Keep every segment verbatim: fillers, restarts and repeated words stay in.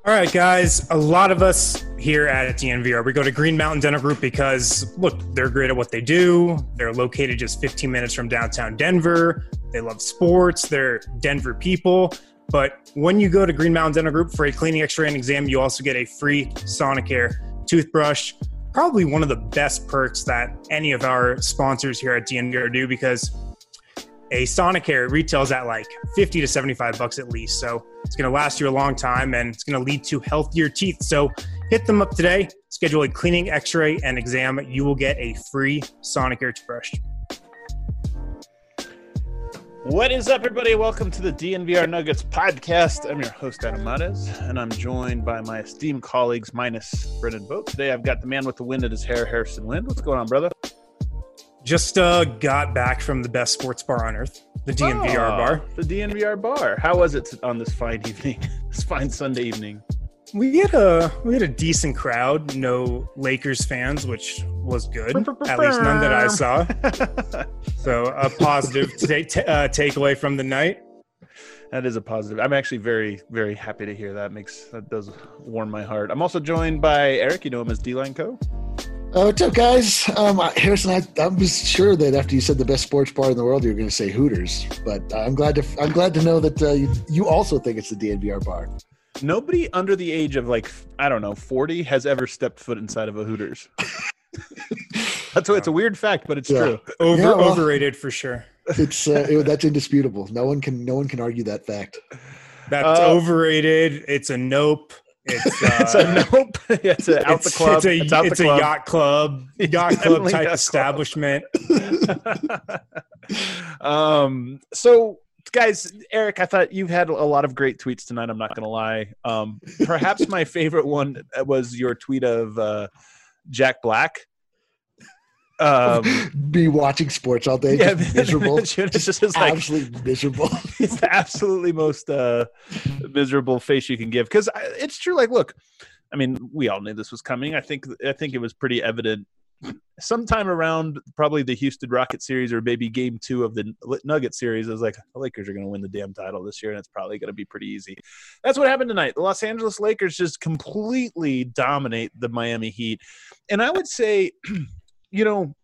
All right, guys. A lot of us here at D N V R, we go to Green Mountain Dental Group because, look, they're great at what they do. They're located just fifteen minutes from downtown Denver. They love sports. They're Denver people. But when you go to Green Mountain Dental Group for a cleaning, X-ray, and exam, you also get a free Sonicare toothbrush. Probably one of the best perks that any of our sponsors here at D N V R do, because a Sonicare retails at like fifty to seventy-five bucks at least. So it's going to last you a long time and it's going to lead to healthier teeth. So hit them up today, schedule a cleaning, X-ray, and exam. You will get a free Sonicare toothbrush. What is up, everybody? Welcome to the D N V R Nuggets podcast. I'm your host, Adam Mares, and I'm joined by my esteemed colleagues, minus Brendan Boat. Today, I've got the man with the wind at his hair, Harrison Wind. What's going on, brother? Just uh, got back from the best sports bar on earth, the D N V R oh, bar. The D N V R bar. How was it on this fine evening, this fine Sunday evening? We had a we had a decent crowd. No Lakers fans, which was good. At least none that I saw. So a positive t- t- uh, takeaway from the night. That is a positive. I'm actually very, very happy to hear that. Makes that does warm my heart. I'm also joined by Eric. You know him as D-Line Co. Uh, what's up, guys? Um, Harrison, I, I was sure that after you said the best sports bar in the world, you were going to say Hooters. But uh, I'm glad to I'm glad to know that uh, you, you also think it's the D N V R bar. Nobody under the age of like I don't know forty has ever stepped foot inside of a Hooters. That's a, it's a weird fact, but it's yeah. true. Over yeah, well, overrated for sure. It's uh, it, that's indisputable. No one can no one can argue that fact. That's uh, overrated. It's a nope. It's, uh, it's a nope. It's a out it's, the club. It's a, it's out it's the a club. yacht club, yacht club type establishment. um. So, guys, Eric, I thought you've had a lot of great tweets tonight. I'm not going to lie. Um. Perhaps my favorite one was your tweet of uh, Jack Black. Um, Be watching sports all day, yeah, just miserable. It's just, just just like, absolutely miserable. It's the absolutely most uh, miserable face you can give, because it's true. Like, look, I mean, we all knew this was coming. I think I think it was pretty evident sometime around probably the Houston Rocket series or maybe game two of the Nugget series. I was like, the Lakers are going to win the damn title this year, and it's probably going to be pretty easy. That's what happened tonight. The Los Angeles Lakers just completely dominate the Miami Heat. And I would say, you know,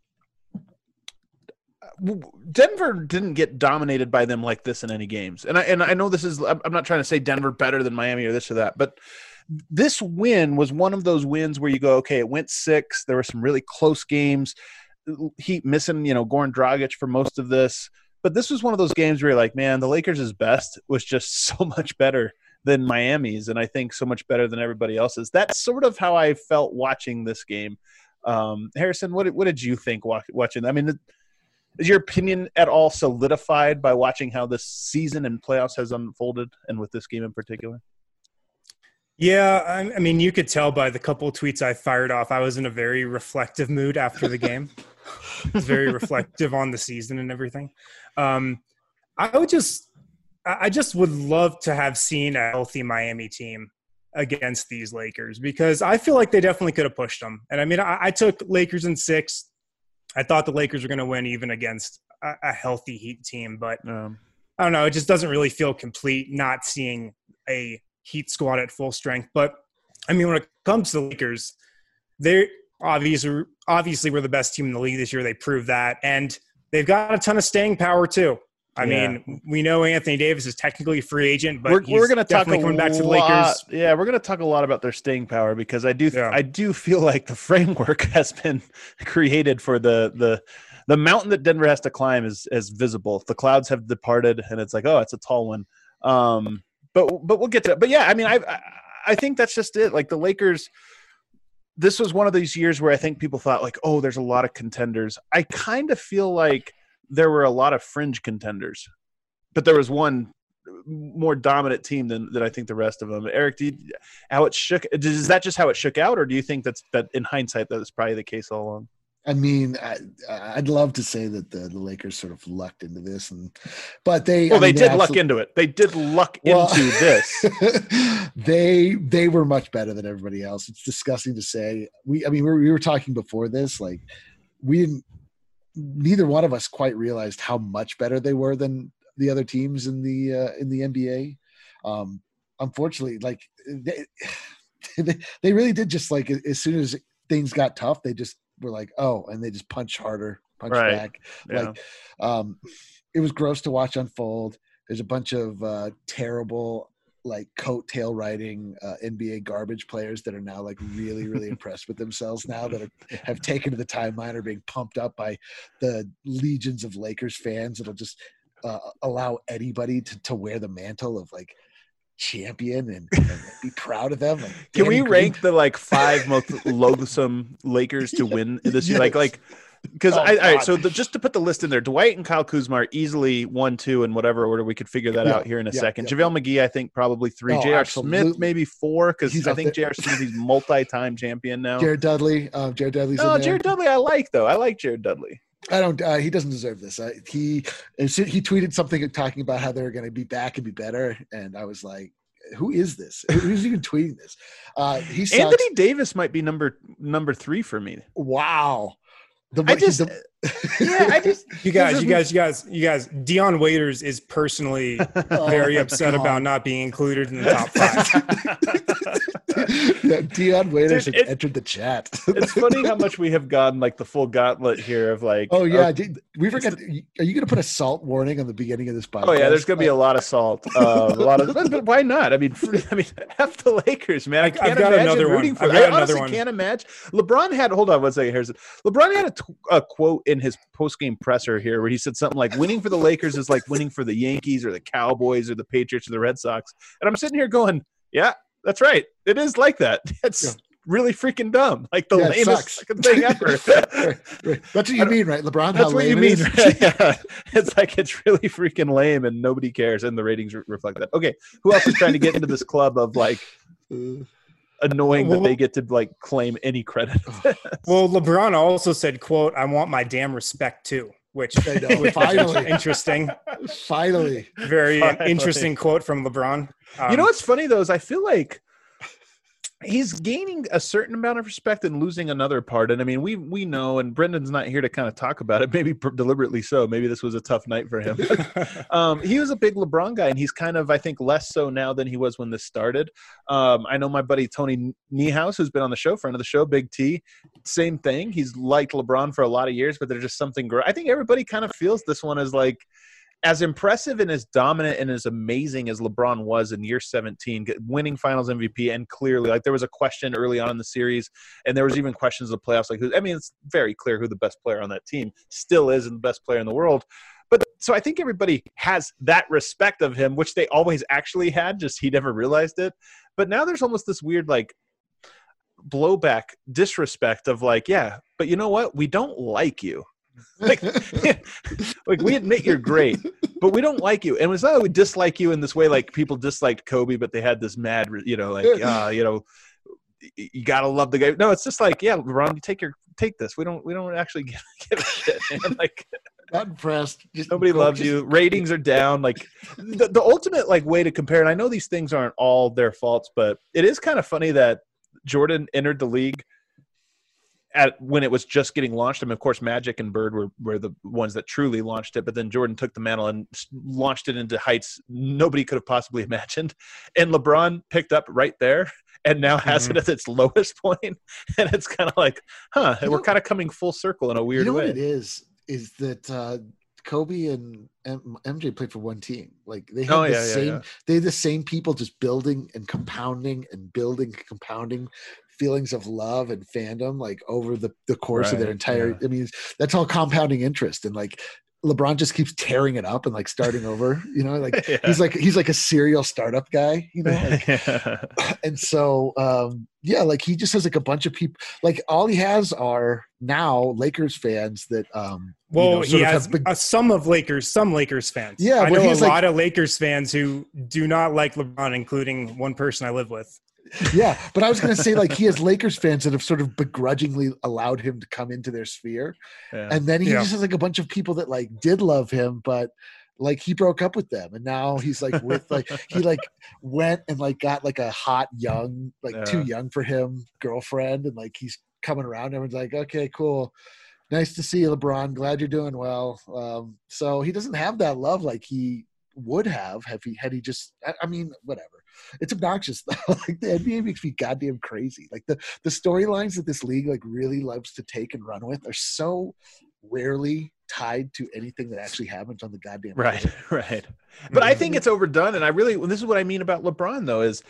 Denver didn't get dominated by them like this in any games. And I and I know this is – I'm not trying to say Denver better than Miami or this or that, but this win was one of those wins where you go, okay, it went six. There were some really close games. Heat missing, you know, Goran Dragic for most of this. But this was one of those games where you're like, man, the Lakers' best was just so much better than Miami's, and I think so much better than everybody else's. That's sort of how I felt watching this game. Um, Harrison, what what did you think watching? I mean, is your opinion at all solidified by watching how this season and playoffs has unfolded, and with this game in particular? Yeah, I, I mean, you could tell by the couple of tweets I fired off, I was in a very reflective mood after the game. I was very reflective on the season and everything. Um, I would just, I just would love to have seen a healthy Miami team against these Lakers, because I feel like they definitely could have pushed them. And I mean, I, I took Lakers in six. I thought the Lakers were going to win even against a, a healthy Heat team, but um, I don't know. It just doesn't really feel complete not seeing a Heat squad at full strength. But I mean, when it comes to the Lakers, they're obviously, obviously we're the best team in the league this year. They proved that. And they've got a ton of staying power too. I yeah. mean, we know Anthony Davis is technically a free agent, but we're, he's we're going to talk definitely coming back to the lot, Lakers. Yeah, we're going to talk a lot about their staying power, because I do, yeah. I do feel like the framework has been created for the the the mountain that Denver has to climb is is visible. The clouds have departed, and it's like, oh, it's a tall one. Um, but but we'll get to it. But yeah, I mean, I I think that's just it. Like the Lakers. This was one of these years where I think people thought like, oh, there's a lot of contenders. I kind of feel like there were a lot of fringe contenders, but there was one more dominant team than, than I think the rest of them. Eric, do you, how it shook? Is that just how it shook out, or do you think that's that in hindsight that is probably the case all along? I mean, I, I'd love to say that the, the Lakers sort of lucked into this, and but they well, I they mean, did they luck into it. They did luck well, into this. they they were much better than everybody else. It's disgusting to say. We I mean, we were, we were talking before this, like we didn't. Neither one of us quite realized how much better they were than the other teams in the uh, in the N B A. Um, unfortunately, like they, they, they really did just like as soon as things got tough, they just were like, oh, and they just punch harder, punch Right. back. Yeah. Like, um, it was gross to watch unfold. There's a bunch of uh, terrible, like coattail riding uh, N B A garbage players that are now like really, really impressed with themselves now that are, have taken to the timeline, are being pumped up by the legions of Lakers fans. That'll just uh, allow anybody to, to wear the mantle of like champion and, and be proud of them. Like, Can Danny we Green- rank the like five most loathsome Lakers to win this year? Like, Yes. like, because Oh, I, all right, God. so the, just to put the list in there, Dwight and Kyle Kuzma are easily one, two, and whatever order. We could figure that Yeah, out here in a yeah, second. yeah. JaVale McGee, I think probably three. Oh, J R absolutely. Smith maybe four, because He's I up think J there. R Smith he's multi-time champion now. Jared Dudley. Um, Jared Dudley's in no, there. Jared Dudley I like though. I like Jared Dudley. I don't. Uh, he doesn't deserve this. Uh, he as soon- he tweeted something talking about how they're going to be back and be better, and I was like, "Who is this? Who's even tweeting this?" Uh, he sucks. Anthony Davis might be number number three for me. Wow. The, I just, the- yeah, I just You guys, you guys, you guys, you guys. Dion Waiters is personally Oh very my upset God. about not being included in the top five. yeah, Dion Waiters Dude, has it- entered the chat. It's funny how much we have gone like the full gauntlet here of like. Oh yeah, uh, did, we forgot. Are you going to put a salt warning on the beginning of this podcast? Oh yeah, there's gonna be a lot of salt, uh, a lot of. But, but why not? I mean, I mean, F the Lakers, man. I I've can't got imagine another one. rooting for. I've I got another honestly one. can't imagine. LeBron had. Hold on one second. Here's LeBron had a, t- a quote in his post game presser here where he said something like, "Winning for the Lakers is like winning for the Yankees or the Cowboys or the Patriots or the Red Sox." And I'm sitting here going, "Yeah, that's right. It is like that. It's Yeah. really freaking dumb. Like the Yeah, it lamest sucks. fucking thing ever." Right, right. That's what you mean, right, LeBron? That's How what you lame mean. it is? Right? Yeah. It's like it's really freaking lame and nobody cares, and the ratings re- reflect that. Okay, who else is trying to get into this club of like annoying Well, that they get to like claim any credit? Well, LeBron also said, "quote I want my damn respect too," which, I know, which finally. is interesting. Finally, Very Finally. interesting quote from LeBron. Um, You know what's funny though is I feel like he's gaining a certain amount of respect and losing another part. And I mean, we we know, and Brendan's not here to kind of talk about it, maybe per- deliberately so. Maybe this was a tough night for him. um, he was a big LeBron guy, and he's kind of, I think, less so now than he was when this started. Um, I know my buddy Tony Niehaus, who's been on the show, friend of the show, Big T, same thing. He's liked LeBron for a lot of years, but there's just something great. I think everybody kind of feels this one as like, as impressive and as dominant and as amazing as LeBron was in year seventeen, get- winning Finals M V P, and clearly, like there was a question early on in the series, and there was even questions of the playoffs. Like, who, I mean, it's very clear who the best player on that team still is, and the best player in the world. But so I think everybody has that respect of him, which they always actually had, just he never realized it. But now there's almost this weird like blowback, disrespect of like, yeah, but you know what? We don't like you. like, like we admit you're great, but we don't like you. And it's not that we dislike you in this way, like people disliked Kobe, but they had this mad, you know, like, uh, you know, you gotta love the guy. No, it's just like, yeah, LeBron, you take your take this. We don't we don't actually give, give a shit, man. Like not impressed. Just nobody go- loves just- you. Ratings are down. Like the, the ultimate like way to compare, and I know these things aren't all their faults, but it is kind of funny that Jordan entered the league at when it was just getting launched. I mean, of course, Magic and Bird were, were the ones that truly launched it, but then Jordan took the mantle and s- launched it into heights nobody could have possibly imagined. And LeBron picked up right there and now has Mhm. it at its lowest point. And it's kind of like, huh, You we're know- kind of coming full circle in a weird you know way. what it is? Is that uh, Kobe and M- MJ played for one team? Like they had Oh, the yeah, yeah, same. yeah. They had the same people just building and compounding and building, and compounding feelings of love and fandom like over the, the course of their Right, entire. yeah. I mean, that's all compounding interest, and like LeBron just keeps tearing it up and like starting over. You know, like Yeah. he's like he's like a serial startup guy. You know, like, Yeah. and so um yeah, like he just has like a bunch of people. Like all he has are now Lakers fans that um Well, you know, he sort of has have big- uh, some of Lakers, some Lakers fans. Yeah, I well, know a he's like- lot of Lakers fans who do not like LeBron, including one person I live with. yeah, but I was gonna say like he has Lakers fans that have sort of begrudgingly allowed him to come into their sphere, Yeah. and then he Yeah. just has like a bunch of people that like did love him, but like he broke up with them, and now he's like with like he like went and like got like a hot young like too Yeah. young for him girlfriend, and like he's coming around. Everyone's like, okay, cool. Nice to see you, LeBron. Glad you're doing well. Um, so he doesn't have that love like he would have have he had he just. I, I mean, whatever. it's obnoxious though. Like the N B A makes me goddamn crazy. Like the the storylines that this league like really loves to take and run with are so rarely tied to anything that actually happens on the goddamn right court. right but I think it's overdone, and I really this is what I mean about LeBron though, is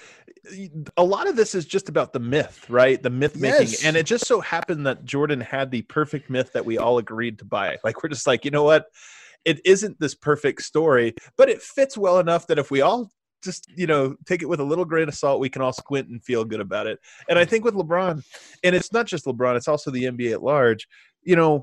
a lot of this is just about the myth, right? The myth making. Yes. And it just so happened that Jordan had the perfect myth that we all agreed to buy. Like we're just like, you know what, it isn't this perfect story, but it fits well enough that if we all just, you know, take it with a little grain of salt, we can all squint and feel good about it. And I think with LeBron, and it's not just LeBron, it's also the N B A at large, you know,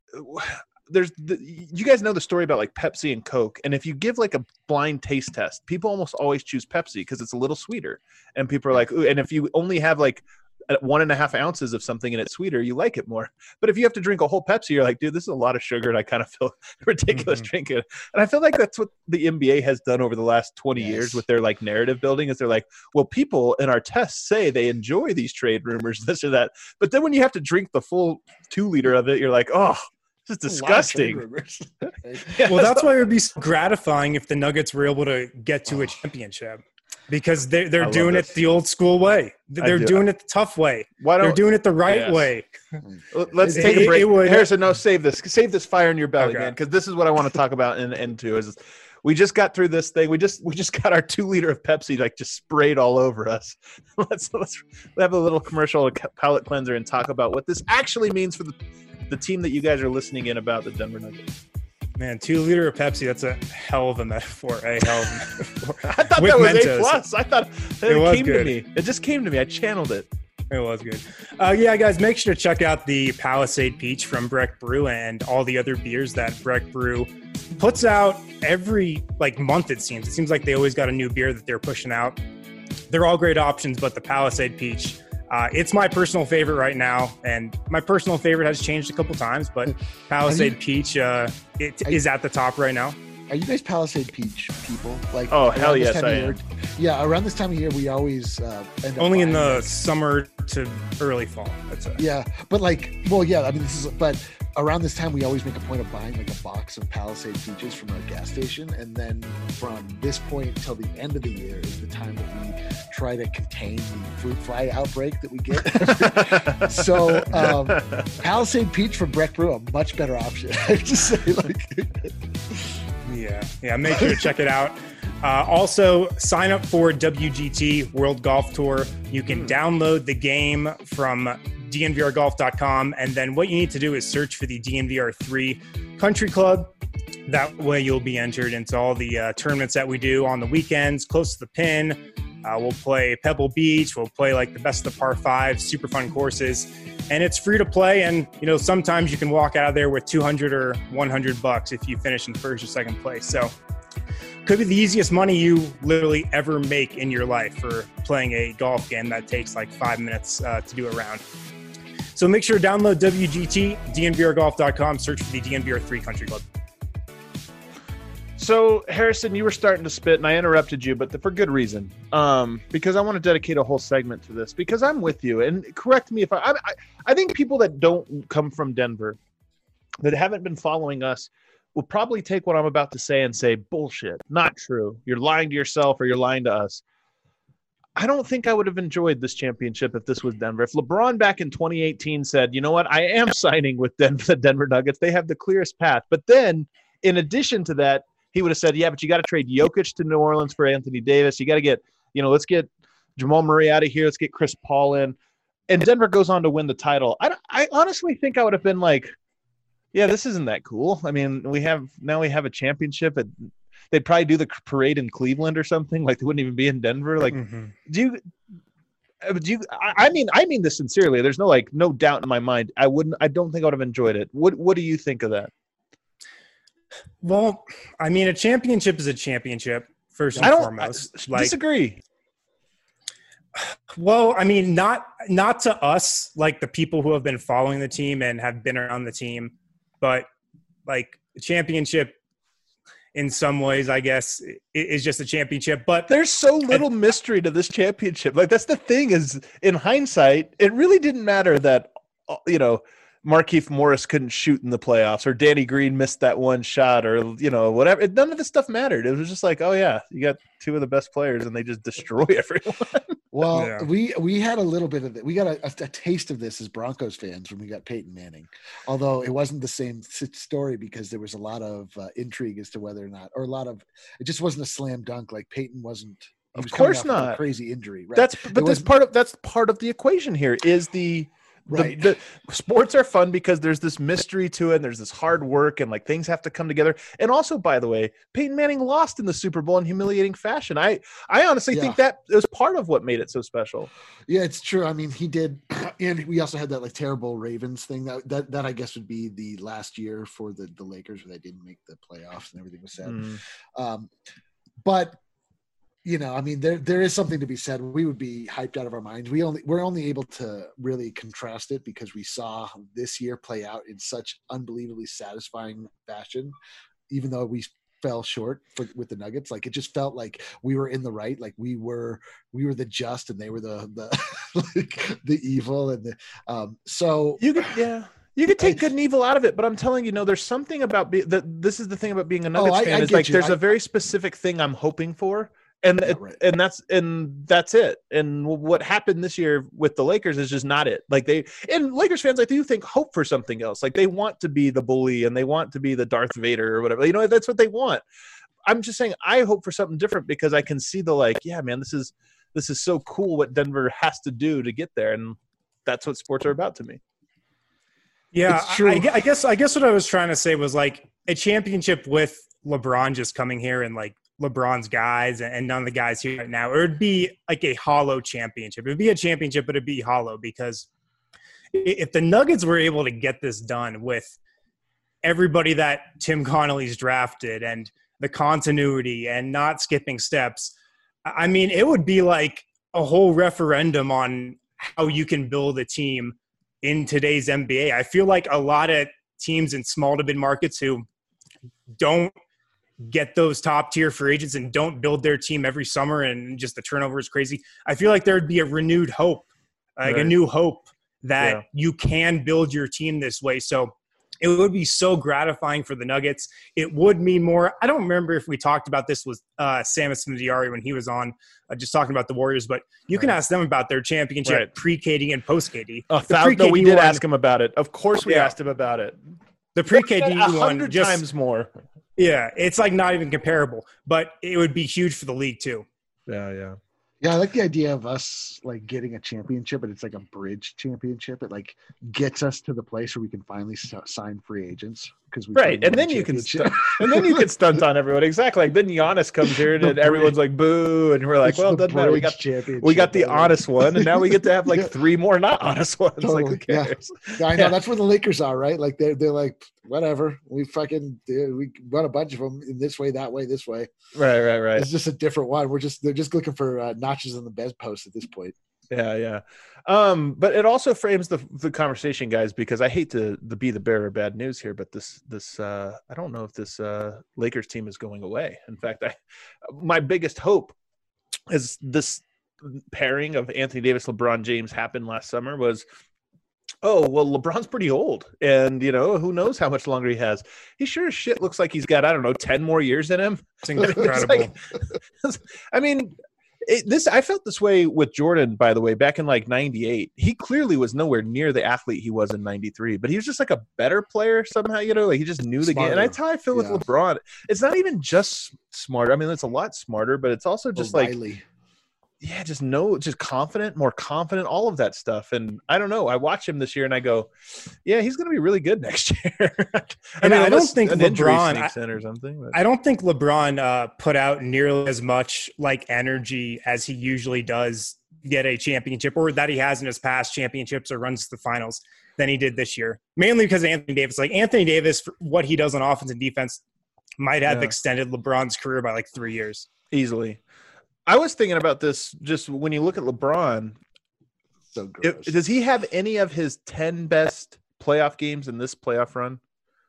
there's the, you guys know the story about like Pepsi and Coke, and if you give like a blind taste test, people almost always choose Pepsi because it's a little sweeter, and people are like, ooh, and if you only have like one and a half ounces of something and it's sweeter, you like it more. But if you have to drink a whole Pepsi, you're like, dude, this is a lot of sugar, and I kind of feel ridiculous Mm-hmm. drinking it. And I feel like that's what the N B A has done over the last twenty Yes. years with their like narrative building, is they're like, well, people in our tests say they enjoy these trade rumors, this or that, but then when you have to drink the full two liter of it, you're like, oh, this is A lot of trade disgusting. rumors. Yeah, Well, that's so- why it would be so gratifying if the Nuggets were able to get to a championship, because they're I they're love doing this. it the old school way. They're do. doing it the tough way. Why They're don't doing it the right Yes. way. let's It- take a it- break. it would- Harrison, no, save this. Save this fire in your belly, Okay. man, because this is what I want to talk about in end two. Is we just got through this thing. We just we just got our two liter of Pepsi like just sprayed all over us. let's let's have a little commercial palate cleanser and talk about what this actually means for the the team that you guys are listening in about, the Denver Nuggets. Man, two liter of Pepsi, that's a hell of a metaphor. A hell of a metaphor. I thought With that was Mentos. A plus. I thought it, It was came to good. me. It just came to me. I channeled it. It was good. Uh, yeah, guys, make sure to check out the Palisade Peach from Breck Brew and all the other beers that Breck Brew puts out every like month, it seems. It seems like they always got a new beer that they're pushing out. They're all great options, but the Palisade Peach, uh, it's my personal favorite right now. And my personal favorite has changed a couple times, but Palisade Peach uh, it Are is at the top right now. Are you guys Palisade Peach people? Like, Oh, around hell this yes, time I of year- am. Yeah, around this time of year, we always uh, end up Only in buying, the like- summer to early fall, I'd say. Yeah, but like, well, yeah. I mean, this is, but around this time, we always make a point of buying like a box of Palisade peaches from our gas station, and then from this point till the end of the year is the time that we try to contain the fruit fly outbreak that we get. So, um, Palisade peach from Breck Brew, a much better option. I have to say, like, Yeah, yeah. Make sure to check it out. Uh, also, sign up for W G T World Golf Tour. You can download the game from D N V R golf dot com, and then what you need to do is search for the D N V R three Country Club. That way, you'll be entered into all the uh, tournaments that we do on the weekends, close to the pin. Uh, we'll play Pebble Beach. We'll play like the best of par five, super fun courses, and it's free to play. And you know, sometimes you can walk out of there with two hundred or one hundred bucks if you finish in first or second place. So, could be the easiest money you literally ever make in your life for playing a golf game that takes like five minutes uh, to do a round. So make sure to download W G T, D N V R golf dot com, search for the D N V R three Country Club. So, Harrison, you were starting to spit, and I interrupted you, but for good reason. Um, because I want to dedicate a whole segment to this, because I'm with you. And correct me if I, I, I think people that don't come from Denver, that haven't been following us, will probably take what I'm about to say and say, bullshit, not true. You're lying to yourself or you're lying to us. I don't think I would have enjoyed this championship if this was Denver. If LeBron back in twenty eighteen said, you know what, I am signing with Denver, the Denver Nuggets, they have the clearest path. But then, in addition to that, he would have said, yeah, but you got to trade Jokic to New Orleans for Anthony Davis. You got to get, you know, let's get Jamal Murray out of here. Let's get Chris Paul in. And Denver goes on to win the title. I, I honestly think I would have been like, yeah, this isn't that cool. I mean, we have now we have a championship. At, they'd probably do the parade in Cleveland or something. Like they wouldn't even be in Denver. Like, Mm-hmm. do you? Do you? I I mean, I mean this sincerely. There's no like, no doubt in my mind. I wouldn't. I don't think I would have enjoyed it. What What do you think of that? Well, I mean, a championship is a championship, first and I don't foremost. I like, disagree. well, I mean, not not to us, like the people who have been following the team and have been around the team, but like a championship, in some ways, I guess, i- is just a championship. But There's so little mystery to this championship. Like that's the thing is, in hindsight, it really didn't matter that, uh, you know, Markieff Morris couldn't shoot in the playoffs, or Danny Green missed that one shot, or you know whatever. It, none of this stuff mattered. It was just like, oh yeah, you got two of the best players, and they just destroy everyone. Well, Yeah. we we had a little bit of it. We got a, a, a taste of this as Broncos fans when we got Peyton Manning, although it wasn't the same s- story because there was a lot of uh, intrigue as to whether or not, or a lot of, it just wasn't a slam dunk. Like Peyton wasn't. He Of was coming course off of a not. crazy injury. Right? That's It but that's wasn't- part of that's part of the equation here is the. The, Right. the sports are fun because there's this mystery to it and there's this hard work and like things have to come together. And also, by the way, Peyton Manning lost in the Super Bowl in humiliating fashion. I, I honestly Yeah. think that is part of what made it so special. Yeah, it's true. I mean, he did, and we also had that like terrible Ravens thing. That that that I guess would be the last year for the the Lakers where they didn't make the playoffs and everything was said. Mm. Um, but you know, I mean, there there is something to be said. We would be hyped out of our minds. We only we're only able to really contrast it because we saw this year play out in such unbelievably satisfying fashion, even though we fell short for, with the Nuggets. Like it just felt like we were in the right. Like we were we were the just and they were the the like the evil and the um. So You could, yeah. You could take good and evil out of it, but I'm telling you, no, there's something about be, that. This is the thing about being a Nuggets I- fan I is get like you. there's I- a very specific thing I'm hoping for, and Yeah, it- right. and that's and that's it. And what happened this year with the Lakers is just not it. Like they and Lakers fans, I do think hope for something else. Like they want to be the bully and they want to be the Darth Vader or whatever. You know, that's what they want. I'm just saying I hope for something different because I can see the like, yeah, man, this is this is so cool what Denver has to do to get there, and that's what sports are about to me. Yeah, It's I- true. I, gue- I guess I guess what I was trying to say was like a championship with LeBron just coming here and like LeBron's guys and none of the guys here right now. It would be like a hollow championship. It would be a championship, but it'd be hollow because i- if the Nuggets were able to get this done with everybody that Tim Connolly's drafted and the continuity and not skipping steps, I mean, it would be like a whole referendum on how you can build a team in today's N B A. I feel like a lot of teams in small to mid markets who don't get those top tier free agents and don't build their team every summer and just the turnover is crazy. I feel like there would be a renewed hope, like Right. a new hope that Yeah. you can build your team this way. So it would be so gratifying for the Nuggets. It would mean more. I don't remember if we talked about this with uh, Samus Diari when he was on, uh, just talking about the Warriors, but you can Right. ask them about their championship Right. pre-K D and post-K D. A The thou- no, pre-K D we did one- ask him about it. Of course, we Yeah. asked him about it. The pre-K D A one hundred just times more. yeah, it's like not even comparable, but it would be huge for the league too. Yeah, yeah. yeah, I like the idea of us like getting a championship, but it's like a bridge championship. It like gets us to the place where we can finally s- sign free agents because we Right, and then you can st- and then you can stunt on everyone. Exactly. Like then Giannis comes here and The then everyone's like boo, and we're like, well, it doesn't matter. We got we got the honest one, and now we get to have like Yeah. three more not honest ones. Like who Totally, yeah. cares? Yeah, I know Yeah. that's where the Lakers are, right? Like they're they're like whatever. We fucking dude, we run a bunch of them in this way, that way, this way. Right, right, right. It's just a different one. We're just they're just looking for uh, notches in the bedpost at this point. Yeah, yeah. Um, but it also frames the the conversation, guys, because I hate to, to be the bearer of bad news here, but this this uh, I don't know if this uh, Lakers team is going away. In fact, I my biggest hope is this pairing of Anthony Davis, LeBron James happened last summer was, oh, well, LeBron's pretty old, and you know who knows how much longer he has. He sure as shit looks like he's got I don't know ten more years in him. It's It's incredible. like- I mean, it, this I felt this way with Jordan, by the way, back in like ninety-eight. He clearly was nowhere near the athlete he was in ninety-three, but he was just like a better player somehow, you know, like he just knew the game. And Smarter. that's how I feel with Yeah. LeBron. It's not even just smarter. I mean, it's a lot smarter, but it's also just like, O'Reilly. yeah, just know, just confident, more confident, all of that stuff. And I don't know. I watch him this year and I go, yeah, he's going to be really good next year. I And I don't unless think an injury LeBron- sneaks in or something. But. I don't think LeBron uh, put out nearly as much like energy as he usually does get a championship, or that he has in his past championships or runs to the finals, than he did this year. Mainly because of Anthony Davis. Like Anthony Davis, for what he does on offense and defense, might have Yeah. extended LeBron's career by like three years. Easily. I was thinking about this just when you look at LeBron. So gross. It, does he have any of his ten best playoff games in this playoff run?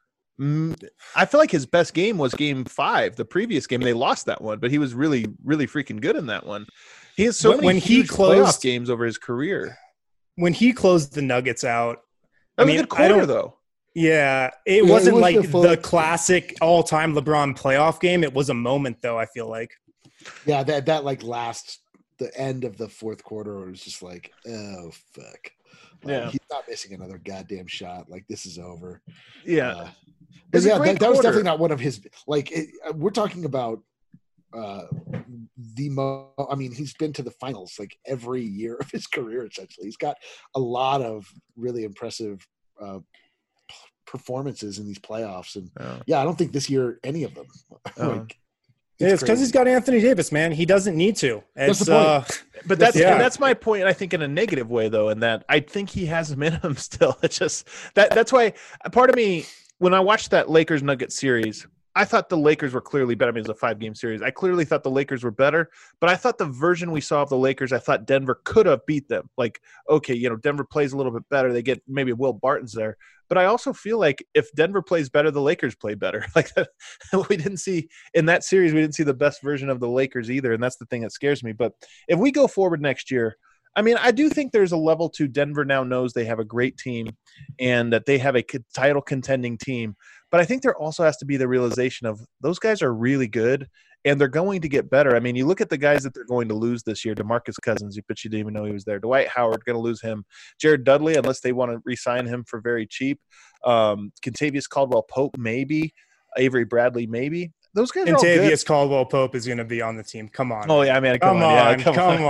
Mm, I feel like his best game was game five, the previous game. They lost that one, but he was really, really freaking good in that one. He has so When- many when he huge closed- playoff games over his career. When he closed the Nuggets out, That I was mean, a good I quarter don't- though. Yeah, it Yeah, it wasn't was like the full- the classic all-time LeBron playoff game. It was a moment, though. I feel like. Yeah, that that like last the end of the fourth quarter where it was just like, oh fuck. Like, Yeah. he's not missing another goddamn shot. Like this is over. Yeah. Uh, but It's a yeah, great that, that was quarter. definitely not one of his. Like it, uh, we're talking about uh the mo. I mean, he's been to the finals like every year of his career. Essentially, he's got a lot of really impressive uh, p- performances in these playoffs, and Yeah. yeah, I don't think this year any of them. Oh. like, Yeah, it's because crazy. he's got Anthony Davis, man. He doesn't need to. That's It's the point. uh, But that's Yeah. and that's my point. I think in a negative way, though, in that I think he has them in him still. It's just that that's why part of me when I watched that Lakers Nuggets series, I thought the Lakers were clearly better. I mean, it was a five game series. I clearly thought the Lakers were better, but I thought the version we saw of the Lakers, I thought Denver could have beat them. Like, okay, you know, Denver plays a little bit better. They get maybe Will Barton's there. But I also feel like if Denver plays better, the Lakers play better. Like we didn't see in that series, we didn't see the best version of the Lakers either. And that's the thing that scares me. But if we go forward next year, I mean, I do think there's a level to Denver now knows they have a great team and that they have a title contending team. But I think there also has to be the realization of those guys are really good and they're going to get better. I mean, you look at the guys that they're going to lose this year, DeMarcus Cousins, but you didn't even know he was there. Dwight Howard, going to lose him. Jared Dudley, unless they want to re-sign him for very cheap. Um, Kentavious Caldwell-Pope, maybe. Avery Bradley, maybe. Those guys are all good. Contavious Caldwell Pope is going to be on the team. Come on. Oh, yeah, man. Come, Come on. Yeah, on, come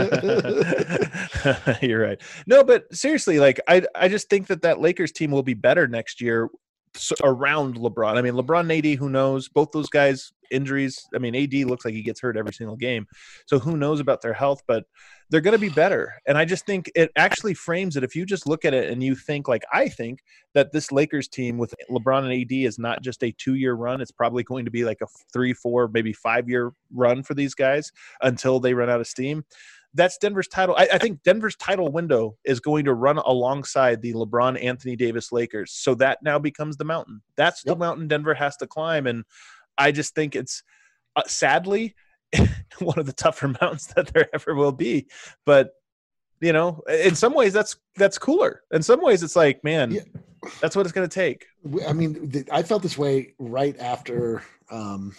on. You're right. No, but seriously, like, I, I just think that that Lakers team will be better next year s- around LeBron. I mean, LeBron and A D, who knows? Both those guys, injuries. I mean, A D looks like he gets hurt every single game. So who knows about their health? But they're going to be better. And I just think it actually frames it. If you just look at it and you think, like I think, that this Lakers team with LeBron and A D is not just a two-year run. It's probably going to be like a three, four, maybe five-year run for these guys until they run out of steam. That's Denver's title. I, I think Denver's title window is going to run alongside the LeBron, Anthony Davis Lakers. So that now becomes the mountain. That's Yep. the mountain Denver has to climb. And I just think it's uh, sadly one of the tougher mountains that there ever will be. But, you know, in some ways that's that's cooler. In some ways it's like, man, Yeah. that's what it's going to take. I mean, th- I felt this way right after um,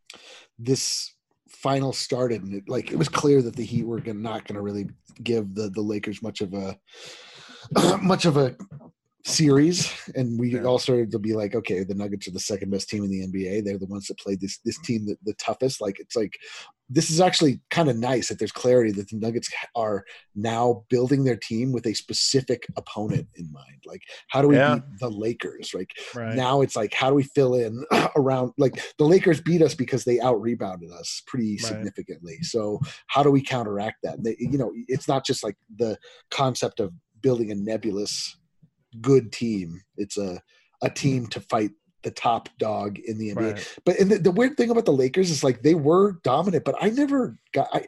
this final started, and it, like it was clear that the Heat were gonna, not going to really give the the Lakers much of a much of a series, and we Yeah. all started to be like, okay, the Nuggets are the second best team in the N B A. They're the ones that played this this team the, the toughest. Like it's like this is actually kind of nice that there's clarity that the Nuggets are now building their team with a specific opponent in mind. Like, how do we Yeah. beat the Lakers? Like Right. now it's like, how do we fill in around, like the Lakers beat us because they out rebounded us pretty Right. significantly. So how do we counteract that? They, you know, it's not just like the concept of building a nebulous good team. It's a, a team to fight the top dog in the N B A. Right. But and the, the weird thing about the Lakers is like they were dominant, but I never got I,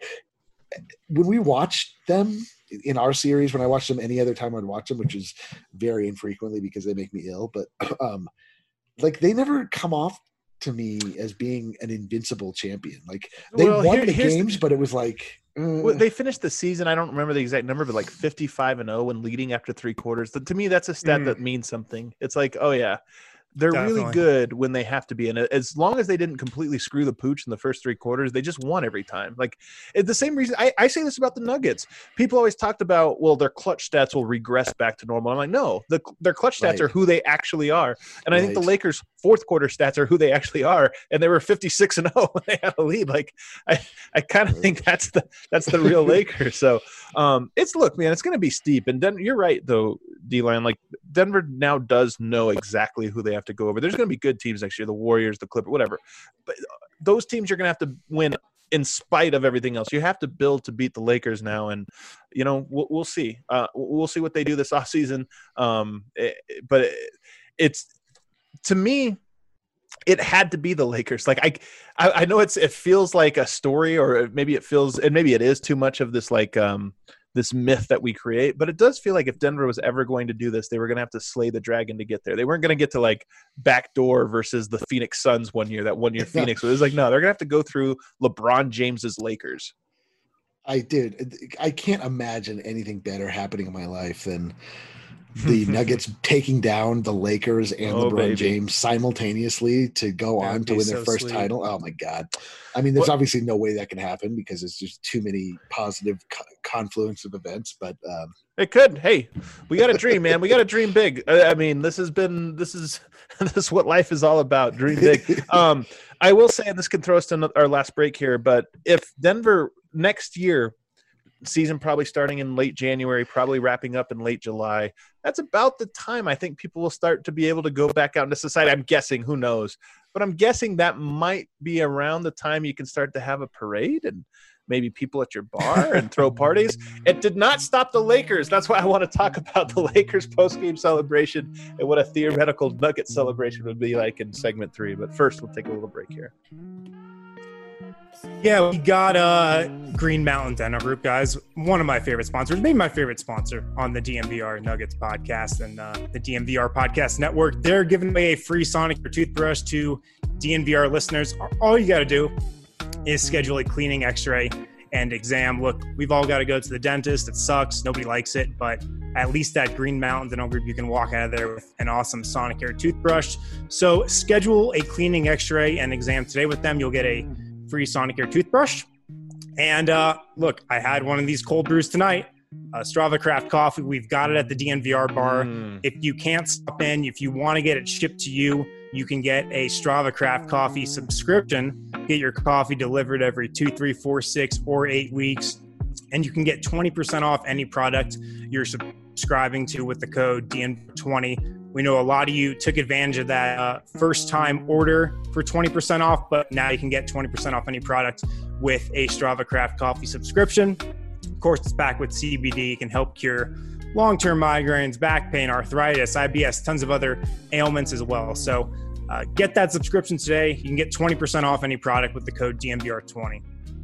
when we watched them in our series, when I watched them any other time I'd watch them, which is very infrequently because they make me ill, but um like they never come off to me as being an invincible champion. Like they Well, won here- the here's the- games, but it was like uh, Well, they finished the season. I don't remember the exact number, but like fifty-five and oh and leading after three quarters. To me, that's a stat Mm. that means something. It's like, oh yeah, they're really Definitely. good when they have to be. And as long as they didn't completely screw the pooch in the first three quarters, they just won every time. Like it's the same reason I, I say this about the Nuggets. People always talked about, well, their clutch stats will regress back to normal. I'm like, no, the, their clutch stats Right. are who they actually are. And I think the Right. Lakers' fourth quarter stats are who they actually are. And they were fifty-six and oh when they had a lead. Like I, I kind of think that's the that's the real Lakers. So um, it's look, man, it's going to be steep. And Den- you're right, though, D-Line. Like Denver now does know exactly who they have to go over. There's going to be good teams next year, the Warriors, the Clippers, whatever. But those teams you're going to have to win in spite of everything else. You have to build to beat the Lakers now, and you know we'll, we'll see. Uh, we'll see what they do this offseason. Um, it, but it, it's to me. It had to be the Lakers. Like I, I, I know it's it feels like a story, or maybe it feels, and maybe it is too much of this like um this myth that we create. But it does feel like if Denver was ever going to do this, they were going to have to slay the dragon to get there. They weren't going to get to like backdoor versus the Phoenix Suns one year. That one year Phoenix was like, no, they're going to have to go through LeBron James's Lakers. I did. I can't imagine anything better happening in my life than the Nuggets taking down the Lakers and Oh, LeBron baby. James simultaneously to go That'd on to be win their so first sweet. title. Oh my God. I mean, there's What- obviously no way that can happen because it's just too many positive co- confluence of events, but um, It could. Hey, we got to dream, man. We got to dream big. I I mean, this has been this is this is what life is all about. Dream big. Um, I will say, and this can throw us to ano- our last break here, but if Denver next year, season probably starting in late January, probably wrapping up in late July, that's about the time I think people will start to be able to go back out into society. I'm guessing, who knows? But I'm guessing that might be around the time you can start to have a parade and maybe people at your bar and throw parties. It did not stop the Lakers. That's why I want to talk about the Lakers post-game celebration and what a theoretical Nugget celebration would be like in segment three. But first, we'll take a little break here. Yeah, we got uh, Green Mountain Dental Group, guys. One of my favorite sponsors, maybe my favorite sponsor on the D M V R Nuggets podcast and uh, the D M V R Podcast Network. They're giving away a free Sonicare toothbrush to D M V R listeners. All you got to do is schedule a cleaning, x-ray, and exam. Look, we've all got to go to the dentist. It sucks. Nobody likes it. But at least at Green Mountain Dental Group, you can walk out of there with an awesome Sonicare toothbrush. So schedule a cleaning, x-ray, and exam today with them. You'll get a free Sonicare toothbrush. And uh, look, I had one of these cold brews tonight. Uh, Strava Craft Coffee. We've got it at the D N V R bar. Mm. If you can't stop in, if you want to get it shipped to you, you can get a Strava Craft Coffee subscription. Get your coffee delivered every two, three, four, six, or eight weeks. And you can get twenty percent off any product you're subscribing to with the code D N twenty. We know a lot of you took advantage of that uh, first time order for twenty percent off, but now you can get twenty percent off any product with a Strava Craft Coffee subscription. Of course, it's back with C B D. It can help cure long-term migraines, back pain, arthritis, I B S, tons of other ailments as well. So uh, get that subscription today. You can get twenty percent off any product with the code D M V R twenty.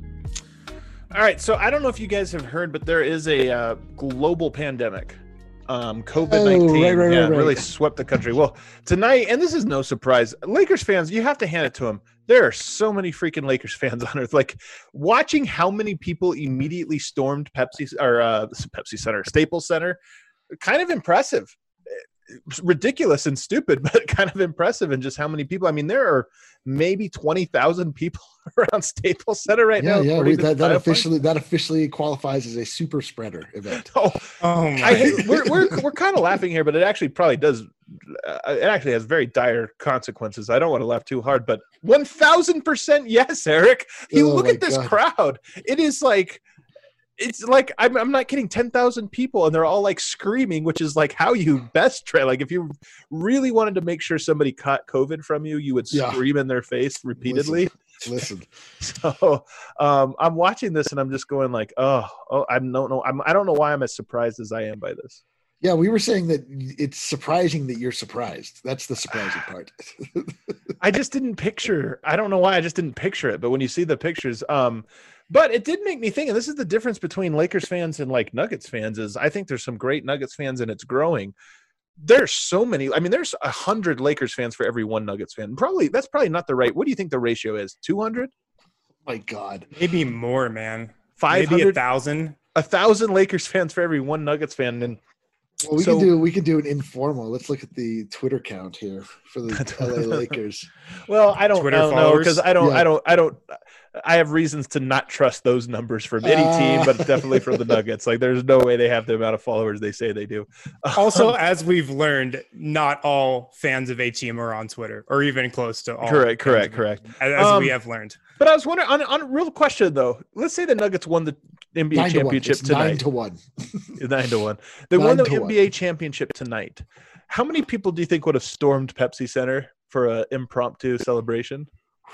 All right, so I don't know if you guys have heard, but there is a uh, global pandemic. Um, COVID nineteen Oh, right, right, yeah, right, right. really swept the country. Well, tonight, and this is no surprise, Lakers fans, you have to hand it to them. There are so many freaking Lakers fans on earth. Like, watching how many people immediately stormed Pepsi or uh, Pepsi Center, Staples Center, kind of impressive. It's ridiculous and stupid, but kind of impressive. And just how many people. I mean, there are maybe twenty thousand people around Staples Center right yeah, now. yeah, according we, to that, the that Title officially that officially qualifies as a super spreader event. Fund. Oh, Oh, my I hate, we're we're we're kind of laughing here, but it actually probably does. Uh, it actually has very dire consequences. I don't want to laugh too hard, but one thousand percent yes, Eric. You Oh look my at this God. crowd. It is like. It's like I'm, I'm not kidding. ten thousand people, and they're all like screaming, which is like how you best try. Like if you really wanted to make sure somebody caught COVID from you, you would Yeah. scream in their face repeatedly. Listen, So um, I'm watching this, and I'm just going like, oh, oh, I don't know. I'm, I don't know why I'm as surprised as I am by this. yeah, we were saying that it's surprising that you're surprised. That's the surprising part. I just didn't picture. I don't know why I just didn't picture it. But when you see the pictures, um, but it did make me think. And this is the difference between Lakers fans and like Nuggets fans. Is I think there's some great Nuggets fans, and it's growing. There's so many. I mean, there's a hundred Lakers fans for every one Nuggets fan. Probably that's probably not the right. What do you think the ratio is? Two hundred? My God. Maybe more, man. Five Maybe a hundred? thousand. A thousand Lakers fans for every one Nuggets fan. And Well, we So- can do we can do an informal. Let's look at the Twitter count here for the L A Lakers. well, I don't, Twitter I don't know followers? because I don't, Yeah. I don't, I don't. I have reasons to not trust those numbers from any Uh. team, but definitely from the Nuggets. Like, there's no way they have the amount of followers they say they do. Also, as we've learned, not all fans of A Team are on Twitter, or even close to all. correct, fans correct, of- correct. As, as Um, we have learned. But I was wondering on, on a real question though. Let's say the Nuggets won the N B A Nine to one. championship It's nine tonight. to one. Nine to one. They Nine won the to N B A championship tonight. How many people do you think would have stormed Pepsi Center for an impromptu celebration?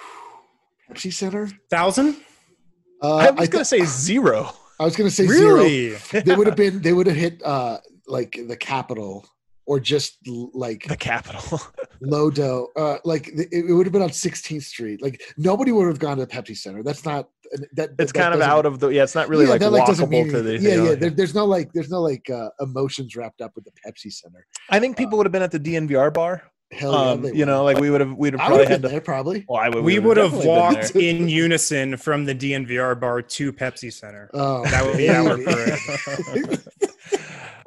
Pepsi Center. Thousand? Uh, I was I, going to say zero. I was going to say zero. Really? They would have been. They would have hit uh, like the Capitol or just l- like The Capitol. Lodo. Uh, like it, it would have been on sixteenth Street. Like nobody would have gone to the Pepsi Center. That's not. That It's that kind of doesn't- out of the. Yeah, it's not really yeah, like that, like, doesn't walkable mean to the. anything. Yeah, you know, yeah. There, there's no like. There's no like uh, emotions wrapped up with the Pepsi Center. I think people would have been at the D N V R bar. Hell yeah, Um, they you know, would. like we would have. We'd have I probably would have had been to. there probably. Well, I would, We would have definitely been walked there. in unison from the D N V R bar to Pepsi Center. Oh, That would be our baby. parade.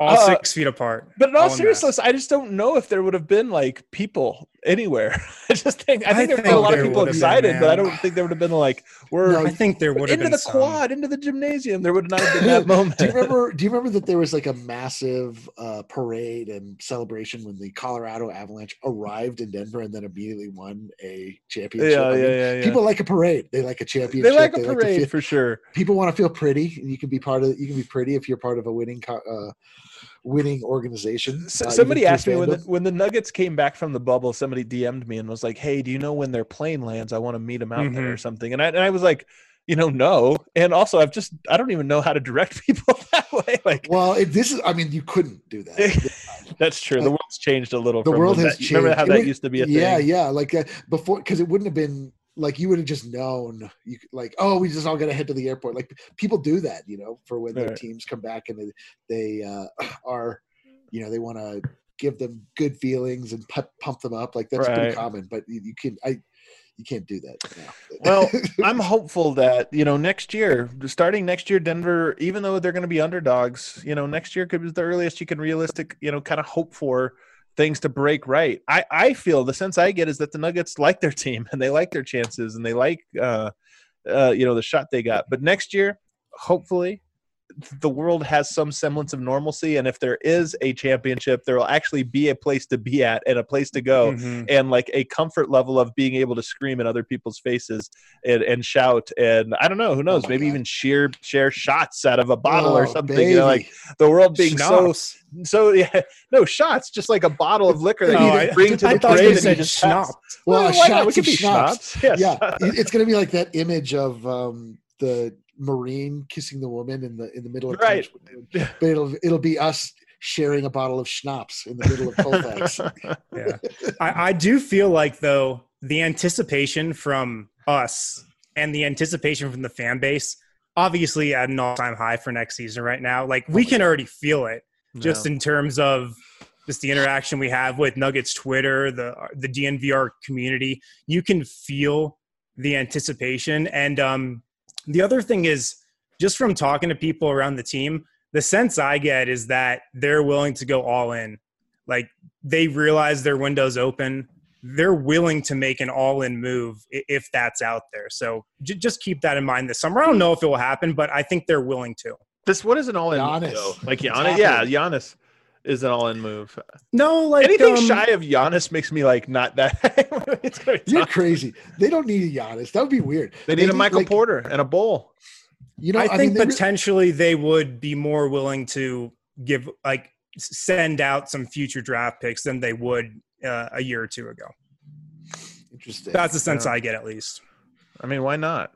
all Uh, six feet apart. But in all all in seriousness, I just don't know if there would have been like people anywhere. I just think I think I there would have been a think lot of there people would have been, excited, but I man. don't think there would have been like we're No, I think there would have into been the some. quad, into the gymnasium. There would not have been that moment. do you remember? Do you remember that there was like a massive uh, parade and celebration when the Colorado Avalanche arrived in Denver and then immediately won a championship? Yeah, I yeah, mean, yeah, yeah. People like a parade. They like a championship. They like a to parade feel- for sure. people want to feel pretty, and you can be part of. You can be pretty if you're part of a winning, co- uh, winning organization. S- uh, somebody even through asked me when the, fandom. when the Nuggets came back from the bubble. Somebody D M'd me and was like, "Hey, do you know when their plane lands? I want to meet them out there or Mhm. something." And I and I was like, you know, no. And also, I've just I don't even know how to direct people that way. Like, Well, it, this is. I mean, you couldn't do that. that's true. The world's changed a little. The from world when has that, you Remember changed. how It that would- used to be a yeah, thing? yeah. Like uh, before, because it wouldn't have been like you would have just known. You could- like, oh, we just all got to head to the airport. Like people do that, you know, for when their Right. teams come back and they, they uh, are, you know, they want to give them good feelings and pump, pump them up. Like that's Right. pretty common. But you, you can, I, you can't do that now. Well, I'm hopeful that, you know, next year, starting next year, Denver, even though they're going to be underdogs, you know, next year could be the earliest you can realistic, you know, kind of hope for things to break right. I, I feel the sense I get is that the Nuggets like their team and they like their chances and they like, uh, uh, you know, the shot they got. But next year, hopefully, the world has some semblance of normalcy, and if there is a championship, there will actually be a place to be at and a place to go, Mhm. and like a comfort level of being able to scream in other people's faces and, and shout, and I don't know, who knows, my maybe God. even share share shots out of a bottle or Oh, something. You know, like baby. the world being Schnapps. so so yeah, no shots, just like a bottle of liquor that Oh, you I, just bring to I the thought parade you and said just pass. schnapps. Well, why not? We shots could of be schnapps. schnapps. Yes. Yeah, it- it's going to be like that image of um, the Marine kissing the woman in the in the middle of Right. Tench- but it'll it'll be us sharing a bottle of schnapps in the middle of Colfax. Yeah. I, I do feel like, though, the anticipation from us and the anticipation from the fan base, obviously at an all-time high for next season right now. Like, we can already feel it just in terms of just the interaction we have with Nuggets Twitter, the the D N V R community. You can feel the anticipation. And um, the other thing is, just from talking to people around the team, the sense I get is that they're willing to go all in. Like, they realize their window's open. They're willing to make an all-in move i- if that's out there. So j- just keep that in mind this summer. I don't know if it will happen, but I think they're willing to. This what is an all in Giannis. though? Like It's Giannis, yeah, happening. Giannis is an all in move. No, like Anything um, shy of Giannis makes me like not that. It's gonna be You're tough. crazy. They don't need a Giannis. That would be weird. They need a Michael like, Porter and a bowl. You know, I I, think mean, they re- potentially they would be more willing to give, like, s- send out some future draft picks than they would uh, a year or two ago. interesting. That's the sense Yeah. I get, at least. I mean, why not?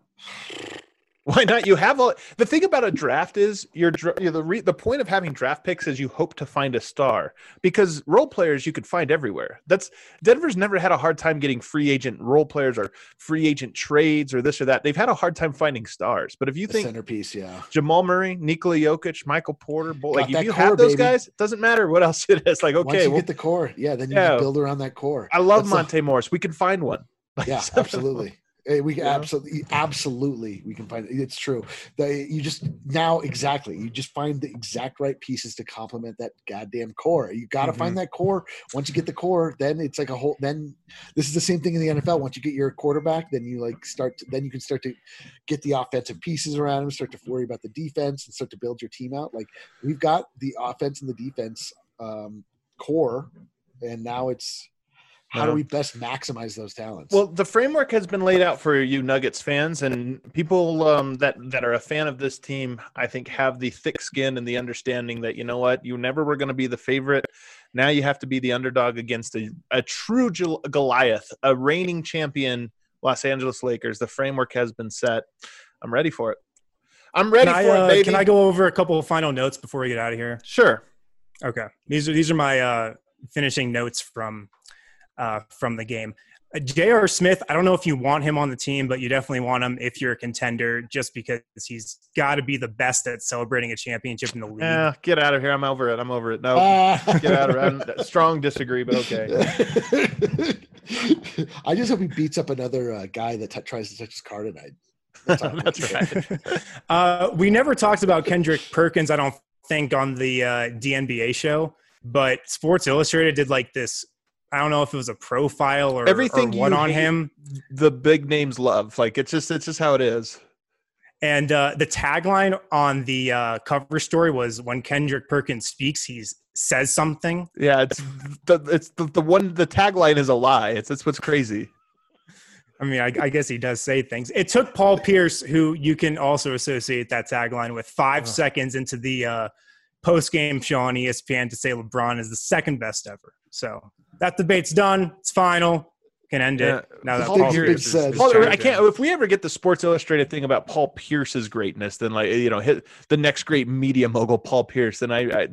Why not? You have all the thing about a draft is you're, dra- you're the re, the point of having draft picks is you hope to find a star because role players you could find everywhere. That's Denver's never had a hard time getting free agent role players or free agent trades or this or that. They've had a hard time finding stars. But if you the think centerpiece, yeah. Jamal Murray, Nikola Jokic, Michael Porter, Bull, Got like if that you core, have those baby. guys, it doesn't matter what else it is. Like Once okay, you well, get the core, yeah, then you Yeah. can build around that core. I love That's the- Monte Morris. We can find one. Like, Yeah, so- absolutely. Hey, we can Yeah. absolutely, absolutely, we can find it. It's true. They, you just now exactly. You just find the exact right pieces to complement that goddamn core. You got to Mhm. find that core. Once you get the core, then it's like a whole. Then this is the same thing in the N F L. Once you get your quarterback, then you like start. To, then you can start to get the offensive pieces around him. Start to worry about the defense and start to build your team out. Like we've got the offense and the defense um, core, and now it's. How Yeah. do we best maximize those talents? Well, the framework has been laid out for you Nuggets fans and people um, that that are a fan of this team. I think have the thick skin and the understanding that you know what, you never were going to be the favorite. Now you have to be the underdog against a, a true Gol- Goliath, a reigning champion, Los Angeles Lakers. The framework has been set. I'm ready for it. I'm ready Can I, for uh, it, baby. can I go over a couple of final notes before we get out of here? Sure. Okay. These are these are my uh, finishing notes from uh, from the game. Uh, J R. Smith, I don't know if you want him on the team, but you definitely want him if you're a contender, just because he's got to be the best at celebrating a championship in the league. Yeah, get out of here. I'm over it. I'm over it. No, Ah. get out of it. I'm, strong disagree, but okay. I just hope he beats up another uh, guy that t- tries to touch his car tonight. That's, all. That's right. uh, we never talked about Kendrick Perkins, I don't think on the uh, D N B A show, but Sports Illustrated did like this. I don't know if it was a profile or everything or what you on hate, him. The big names love. Like it's just it's just how it is. And uh, the tagline on the uh, cover story was, "When Kendrick Perkins speaks, he says something." Yeah, it's the it's the, the one. The tagline is a lie. It's that's what's crazy. I mean, I, I guess he does say things. It took Paul Pierce, who you can also associate that tagline with, five oh. seconds into the uh, post-game show on E S P N to say LeBron is the second best ever. So that debate's done. It's final. Can end yeah. it. Now that Paul Paul Pierce Pierce is, said. is Paul, trying I to- can't. If we ever get the Sports Illustrated thing about Paul Pierce's greatness, then like you know, hit the next great media mogul, Paul Pierce, then I, I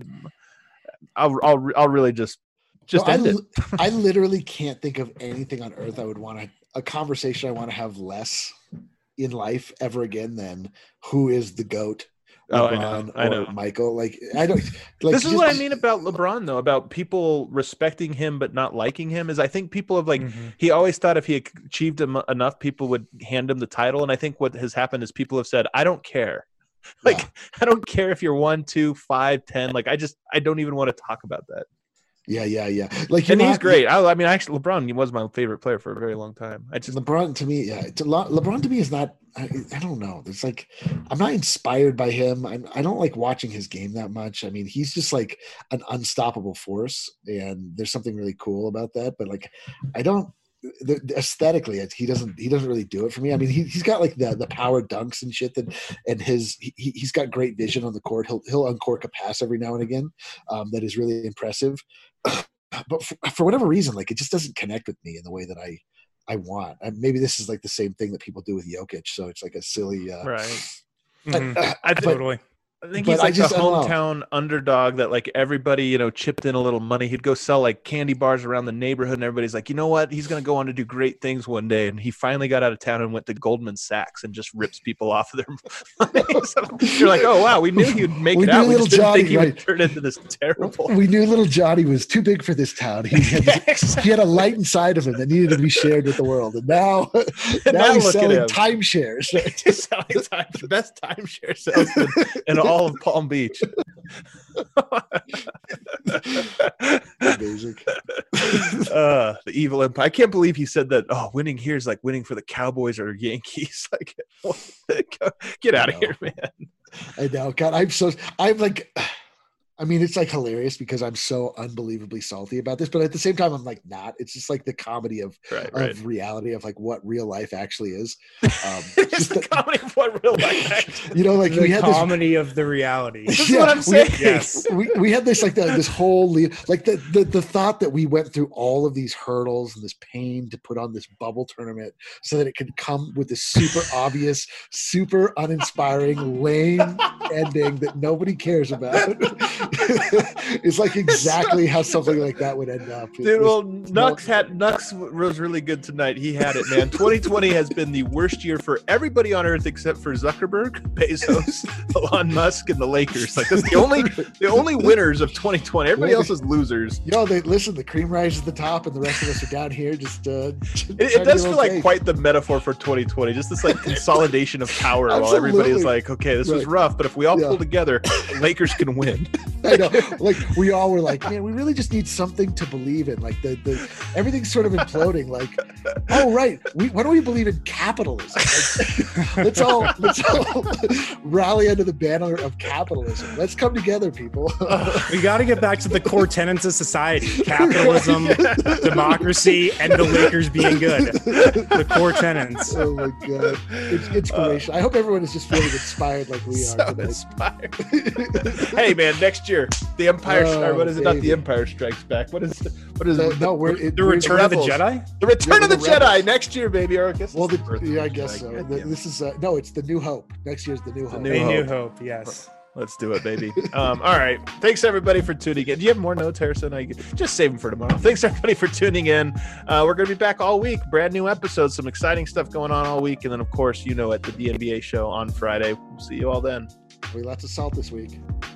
I'll, I'll, I'll really just, just no, end I, it. I literally can't think of anything on earth I would want to, a conversation I want to have less in life ever again than who is the GOAT, Oh, I LeBron know, I or know. Michael. Like, I don't, like, This is just- what I mean about LeBron, though, about people respecting him but not liking him. Is I think people have like Mhm. he always thought if he achieved em- enough, people would hand him the title. And I think what has happened is people have said, "I don't care." Like, Yeah. I don't care if you're one, two, five, ten. Like, I just I don't even want to talk about that. Yeah, yeah, yeah. Like, you're And he's not- great. I, I mean, actually, LeBron he was my favorite player for a very long time. I just LeBron to me, yeah, it's a lot. LeBron to me is not. I, I don't know. It's like I'm not inspired by him. I'm, I don't like watching his game that much. I mean, he's just like an unstoppable force, and there's something really cool about that. But like, I don't. The, the aesthetically, he doesn't. He doesn't really do it for me. I mean, he he's got like the the power dunks and shit that, and his he he's got great vision on the court. He'll he'll uncork a pass every now and again, um, that is really impressive. But for, for whatever reason, like it just doesn't connect with me in the way that I I want. And maybe this is like the same thing that people do with Jokic. So it's like a silly. Uh, right. Mhm. uh, I but- Totally. I think But he's I like just- the I don't know. hometown underdog that like everybody, you know, chipped in a little money. He'd go sell like candy bars around the neighborhood and everybody's like, you know what? He's going to go on to do great things one day. And he finally got out of town and went to Goldman Sachs and just rips people off of their money. So you're like, oh, wow, we knew he'd make We it knew out. We little just didn't Johnny, think he would right. turn into this terrible. We knew little Johnny was too big for this town. He had, Yeah, exactly. he had a light inside of him that needed to be shared with the world. And now, now, now he's look at selling him. timeshares. He's selling time, best timeshare salesman in all of Palm Beach. Amazing. uh, the evil empire. I can't believe he said that. Oh, winning here is like winning for the Cowboys or Yankees. Like, what? Get out of I here, man. I know. God, I'm so, I'm like, I mean, it's like hilarious because I'm so unbelievably salty about this, but at the same time, I'm like not. It's just like the comedy of, Right, of right. reality of like what real life actually is. Um, It's just the the- comedy of what real life actually. you know, like The we had this comedy of the reality. This is Yeah, what I'm we- saying. Yes. we, we had this like the, this whole le- like the, the the thought that we went through all of these hurdles and this pain to put on this bubble tournament so that it could come with this super obvious, super uninspiring, lame ending that nobody cares about. It's like exactly how something like that would end up. It Dude, was- well, Nux had Nux was really good tonight. He had it, man. twenty twenty has been the worst year for everybody on Earth except for Zuckerberg, Bezos, Elon Musk, and the Lakers. Like that's the only the only winners of twenty twenty. Everybody else is losers. Yo, they listen. The cream rises at the top, and the rest of us are down here. Just uh, It, it does feel like quite the metaphor for twenty twenty. Just this like consolidation of power while everybody is Absolutely. like, okay, this was Right. rough, but if we all Yeah. pull together, the Lakers can win. I know. Like we all were like, man, we really just need something to believe in. Like the the everything's sort of imploding. Like, oh right, we, why don't we believe in capitalism? Like, let's all let's all rally under the banner of capitalism. Let's come together, people. We got to get back to the core tenets of society: capitalism, democracy, and the Lakers being good. The core tenets. Oh my god, it's inspiration. I hope everyone is just feeling inspired like we So are today. inspired. Hey man, next year the Empire. Oh, or what is it? Not the baby. Empire Strikes Back. What is? What is? The- it? no, we're it, The we're- Return of the Rebels. Jedi? The Return Yeah, of the, the Rebels. Jedi next year, baby. Or I guess Well, it's the, birth of yeah, I the guess Jedi. so. God The- damn it. this is uh, no, it's the New Hope. Next year's the New Hope. New A Hope. New Hope, yes. Let's do it, baby. Um, all right. Thanks everybody for tuning in. Do you have more notes, Harrison? I just save them for tomorrow. Thanks everybody for tuning in. Uh, we're going to be back all week. Brand new episodes. Some exciting stuff going on all week. And then, of course, you know, at the D N B A show on Friday. We'll see you all then. We lots of salt this week.